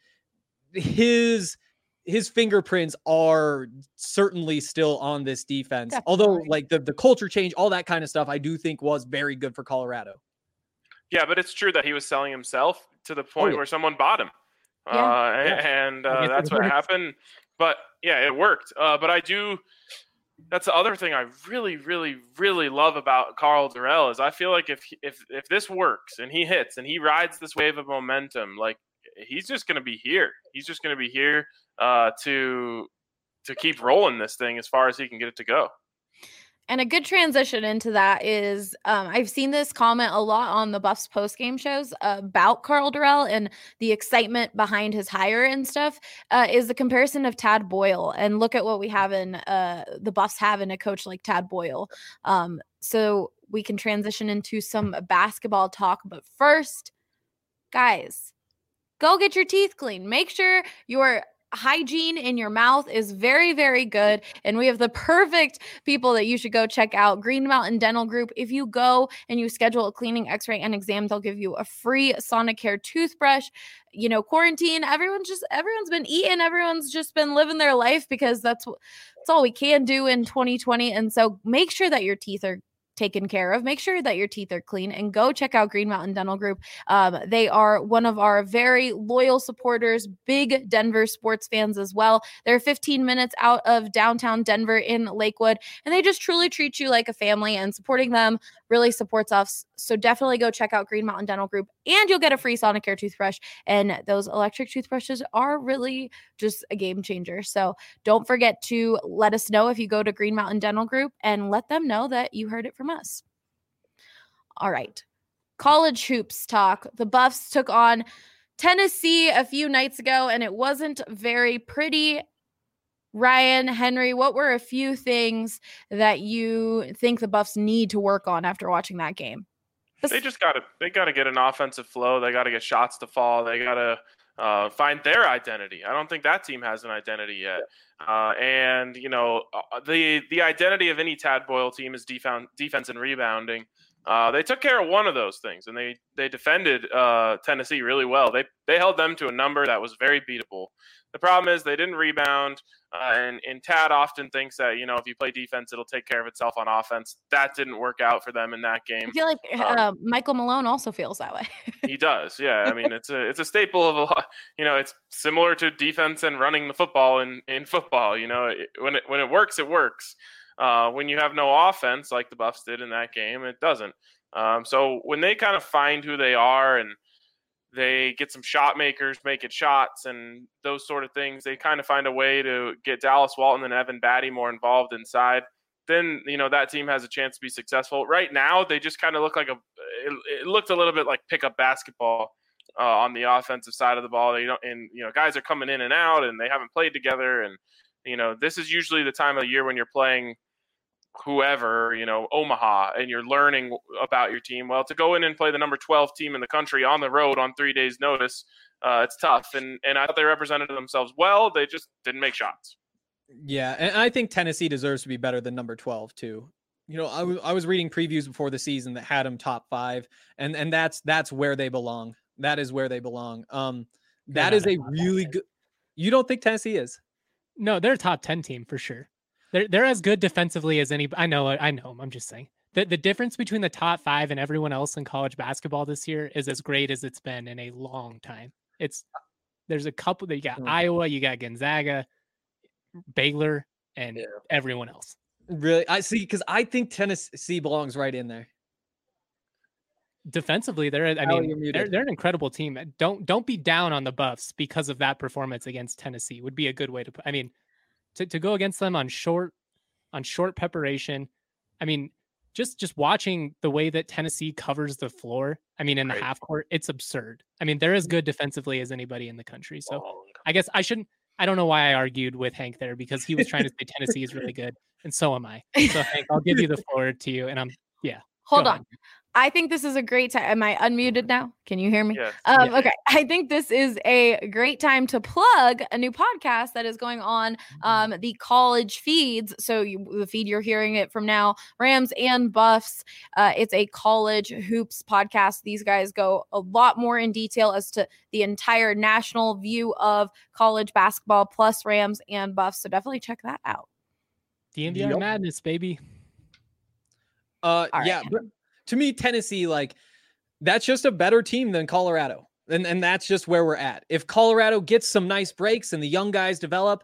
his fingerprints are certainly still on this defense. Definitely. Although like the culture change, all that kind of stuff, I do think was very good for Colorado. Yeah, but it's true that he was selling himself to the point where someone bought him. And that's what happened. But yeah, it worked. But that's the other thing I really, really, really love about Karl Dorrell is I feel like if this works and he hits and he rides this wave of momentum, like he's just going to be here. He's just going to be here to keep rolling this thing as far as he can get it to go. And a good transition into that is I've seen this comment a lot on the Buffs post-game shows about Karl Dorrell and the excitement behind his hire and stuff is the comparison of Tad Boyle. And look at what we have in the Buffs have in a coach like Tad Boyle. So we can transition into some basketball talk. But first, guys, go get your teeth cleaned. Make sure your hygiene in your mouth is very, very good. And we have the perfect people that you should go check out. Green Mountain Dental Group. If you go and you schedule a cleaning, x-ray, and exam, they'll give you a free Sonicare toothbrush. You know, quarantine, everyone's been eating. Everyone's just been living their life because that's all we can do in 2020. And so make sure that your teeth are taken care of. Make sure that your teeth are clean and go check out Green Mountain Dental Group. They are one of our very loyal supporters, big Denver sports fans as well. They're 15 minutes out of downtown Denver in Lakewood, and they just truly treat you like a family, and supporting them really supports us. So definitely go check out Green Mountain Dental Group, and you'll get a free Sonicare toothbrush. And those electric toothbrushes are really just a game changer. So don't forget to let us know if you go to Green Mountain Dental Group and let them know that you heard it from us. All right. College hoops talk. The Buffs took on Tennessee a few nights ago, and it wasn't very pretty. Ryan, Henry, what were a few things that you think the Buffs need to work on after watching that game? They got to get an offensive flow. They got to get shots to fall. They got to find their identity. I don't think that team has an identity yet. And you know, the identity of any Tad Boyle team is defense and rebounding. They took care of one of those things, and they defended Tennessee really well. They held them to a number that was very beatable. The problem is they didn't rebound, and Tad often thinks that, you know, if you play defense, it'll take care of itself on offense. That didn't work out for them in that game. I feel like Michael Malone also feels that way. He does, yeah. I mean, it's a staple of a lot. You know, it's similar to defense and running the football in football. You know, when it works, it works. When you have no offense, like the Buffs did in that game, it doesn't. So when they kind of find who they are and they get some shot makers making shots and those sort of things, they kind of find a way to get Dallas Walton and Evan Batty more involved inside. Then, you know, that team has a chance to be successful. Right now, they just kind of look like it looked a little bit like pickup basketball on the offensive side of the ball. Guys are coming in and out and they haven't played together. And, you know, this is usually the time of the year when you're playing whoever, Omaha, and you're learning about your team. Well, to go in and play the number 12 team in the country on the road on 3 days' notice, it's tough. And I thought they represented themselves well. They just didn't make shots. Yeah, and I think Tennessee deserves to be better than number 12 too. I was reading previews before the season that had them top 5, and that's where they belong. That is where they belong. That is a really good. You don't think Tennessee is? No, they're a top 10 team for sure. They're as good defensively as any. I know. I'm just saying the difference between the top 5 and everyone else in college basketball this year is as great as it's been in a long time. There's a couple that you got Iowa, you got Gonzaga, Baylor, and everyone else. Really, I see, because I think Tennessee belongs right in there. Defensively, they're an incredible team. Don't be down on the Buffs because of that performance against Tennessee. Would be a good way to put. I mean, to go against them on short preparation. I mean, just watching the way that Tennessee covers the floor. I mean, in the half court, it's absurd. I mean, they're as good defensively as anybody in the country. So I guess I shouldn't. I don't know why I argued with Hank there, because he was trying to say Tennessee is really good, and so am I. So Hank, I'll give you the floor to you, and Hold on. I think this is a great time. Am I unmuted now? Can you hear me? Yes. Okay. I think this is a great time to plug a new podcast that is going on the college feeds. So the feed you're hearing it from now, Rams and Buffs. It's a college hoops podcast. These guys go a lot more in detail as to the entire national view of college basketball plus Rams and Buffs. So definitely check that out. DNVR madness, baby. Yeah. But to me, Tennessee, that's just a better team than Colorado. And that's just where we're at. If Colorado gets some nice breaks and the young guys develop,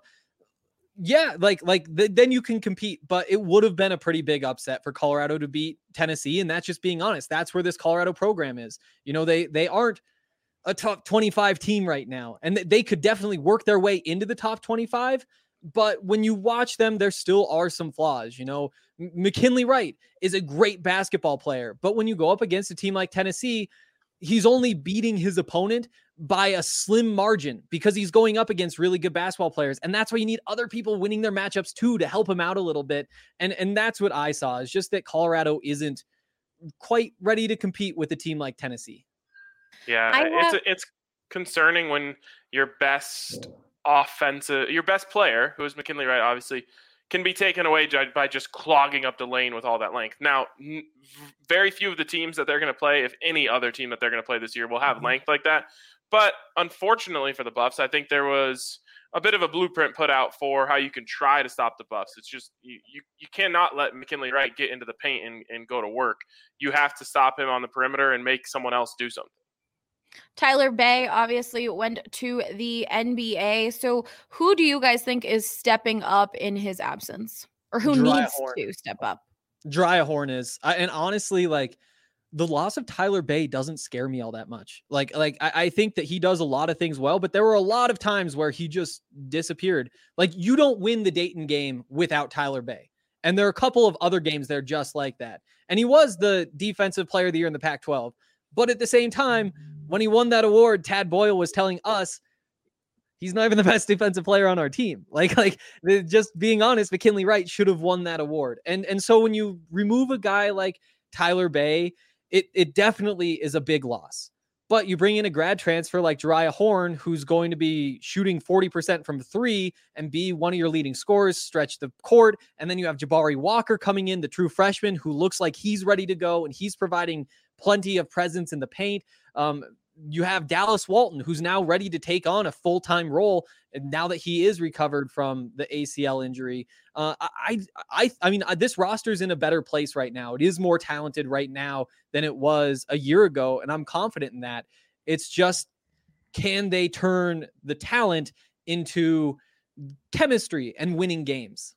then you can compete. But it would have been a pretty big upset for Colorado to beat Tennessee. And that's just being honest. That's where this Colorado program is. They aren't a top 25 team right now. And they could definitely work their way into the top 25. But when you watch them, there still are some flaws. McKinley Wright is a great basketball player, but when you go up against a team like Tennessee, he's only beating his opponent by a slim margin because he's going up against really good basketball players. And that's why you need other people winning their matchups too, to help him out a little bit. And that's what I saw, is just that Colorado isn't quite ready to compete with a team like Tennessee. Yeah, it's concerning when your best player, who is McKinley Wright, obviously, can be taken away by just clogging up the lane with all that length. Now, very few of the teams that they're going to play, if any other team that they're going to play this year, will have length like that. But unfortunately for the Buffs, I think there was a bit of a blueprint put out for how you can try to stop the Buffs. It's just you cannot let McKinley Wright get into the paint and go to work. You have to stop him on the perimeter and make someone else do something. Tyler Bey obviously went to the NBA. So who do you guys think is stepping up in his absence, or who needs to step up? Dry Horn is. And honestly, the loss of Tyler Bey doesn't scare me all that much. I think that he does a lot of things well, but there were a lot of times where he just disappeared. You don't win the Dayton game without Tyler Bey. And there are a couple of other games there just like that. And he was the defensive player of the year in the Pac-12. But at the same time, when he won that award, Tad Boyle was telling us he's not even the best defensive player on our team. Just being honest, McKinley Wright should have won that award. And so when you remove a guy like Tyler Bey, it definitely is a big loss. But you bring in a grad transfer like Jariah Horn, who's going to be shooting 40% from 3 and be one of your leading scorers, stretch the court. And then you have Jabari Walker coming in, the true freshman, who looks like he's ready to go, and he's providing plenty of presence in the paint. You have Dallas Walton, who's now ready to take on a full-time role, and now that he is recovered from the ACL injury. I mean, this roster's in a better place right now. It is more talented right now than it was a year ago, and I'm confident in that. It's just, can they turn the talent into chemistry and winning games?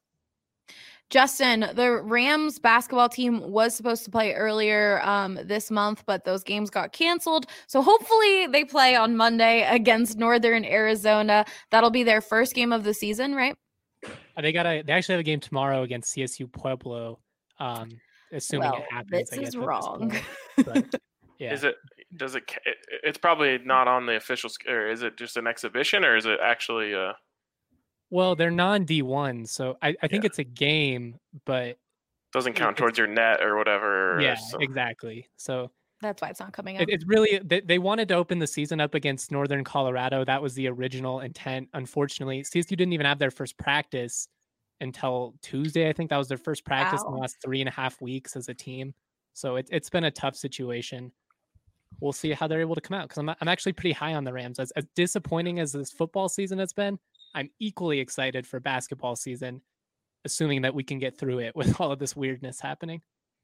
Justin, the Rams basketball team was supposed to play earlier this month, but those games got canceled. So hopefully they play on Monday against Northern Arizona. That'll be their first game of the season, right? They actually have a game tomorrow against CSU Pueblo. Assuming it happens. This is wrong. But, yeah. It's probably not on the official, or is it just an exhibition, or is it actually Well, they're non-D1, so I think it's a game, but Doesn't count towards your net or whatever. Yeah, exactly. So that's why it's not coming up. It's really they wanted to open the season up against Northern Colorado. That was the original intent. Unfortunately, CSU didn't even have their first practice until Tuesday. I think that was their first practice in the last 3.5 weeks as a team. So it's been a tough situation. We'll see how they're able to come out, because I'm actually pretty high on the Rams. As disappointing as this football season has been, I'm equally excited for basketball season, assuming that we can get through it with all of this weirdness happening.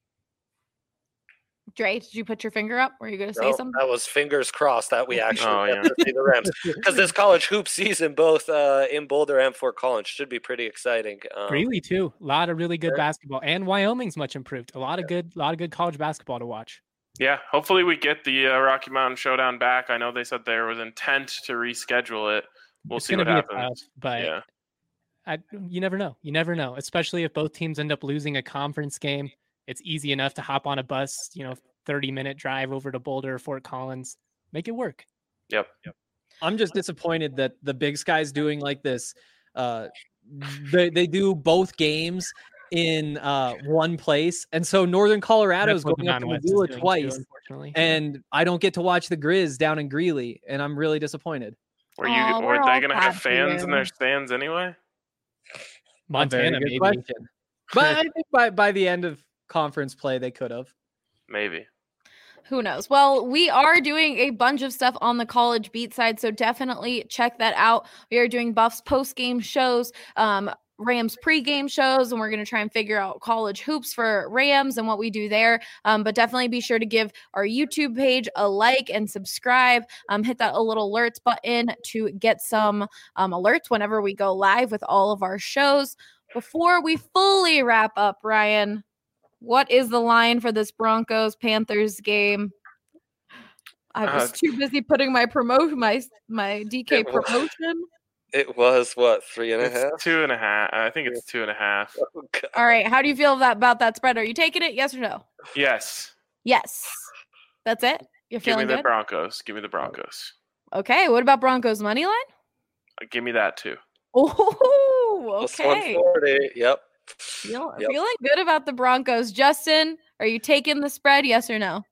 Dre, did you put your finger up? Were you going to say something? That was fingers crossed that we actually get to see the Rams, because this college hoop season, both in Boulder and Fort Collins, should be pretty exciting. Greeley too, a lot of really good basketball, and Wyoming's much improved. A lot of good college basketball to watch. Yeah, hopefully we get the Rocky Mountain Showdown back. I know they said there was intent to reschedule it. We'll see what happens. But you never know. You never know, especially if both teams end up losing a conference game. It's easy enough to hop on a bus, 30-minute drive over to Boulder or Fort Collins. Make it work. Yep. I'm just disappointed that the Big Sky's doing like this. They do both games in one place, and so Northern Colorado is going up to Missoula twice, and I don't get to watch the Grizz down in Greeley, and I'm really disappointed. Were they going to have fans in their stands anyway? Montana, maybe. Question. But I think by the end of conference play, they could have. Maybe. Who knows? Well, we are doing a bunch of stuff on the college beat side, so definitely check that out. We are doing Buffs post-game shows, Rams pre-game shows, and we're going to try and figure out college hoops for Rams and what we do there. But definitely be sure to give our YouTube page a like and subscribe. Hit that little alerts button to get some alerts whenever we go live with all of our shows. Before we fully wrap up, Ryan, what is the line for this Broncos-Panthers game? I was too busy putting my DK promotion. It was what, 3.5? 2.5. I think it's 2.5. Oh, all right. How do you feel about that spread? Are you taking it? Yes or no? Yes. Yes. That's it? You're feeling good? Give me the Broncos. Okay. What about Broncos money line? Give me that too. Oh, okay. 140. Yep. Feeling good about the Broncos. Justin, are you taking the spread? Yes or no?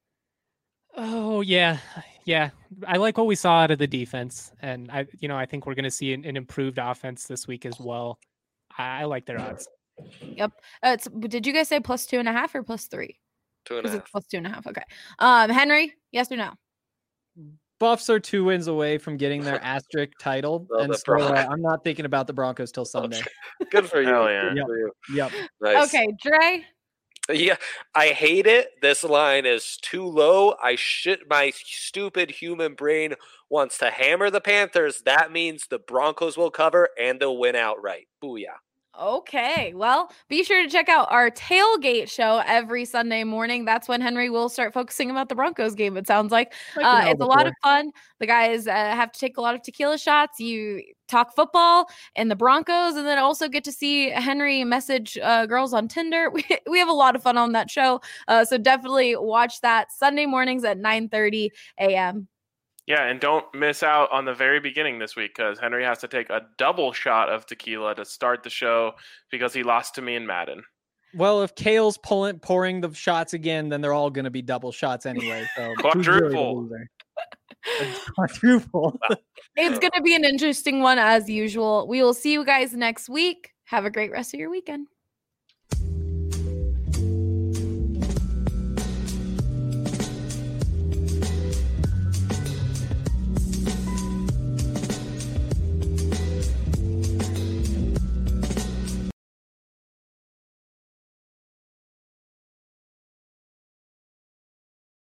Oh, yeah. Yeah. I like what we saw out of the defense. And I think we're going to see an improved offense this week as well. I like their odds. Yep. Did you guys say plus 2.5 or plus 3? 2.5. Plus 2.5. Okay. Henry, yes or no? Buffs are 2 wins away from getting their asterisk title, and so I'm not thinking about the Broncos till Sunday. Good for you. Hell yeah. Yep. Nice. Okay, Dre. Yeah, I hate it. This line is too low. My stupid human brain wants to hammer the Panthers. That means the Broncos will cover and they'll win outright. Booyah. Okay, well, be sure to check out our tailgate show every Sunday morning. That's when Henry will start focusing about the Broncos game, it sounds like. It's a lot of fun. The guys have to take a lot of tequila shots. You talk football and the Broncos, and then also get to see Henry message girls on Tinder. We have a lot of fun on that show, so definitely watch that Sunday mornings at 9:30 a.m. Yeah, and don't miss out on the very beginning this week, because Henry has to take a double shot of tequila to start the show because he lost to me in Madden. Well, if Kale's pouring the shots again, then they're all going to be double shots anyway. So quadruple. Quadruple. It's going to be an interesting one as usual. We will see you guys next week. Have a great rest of your weekend.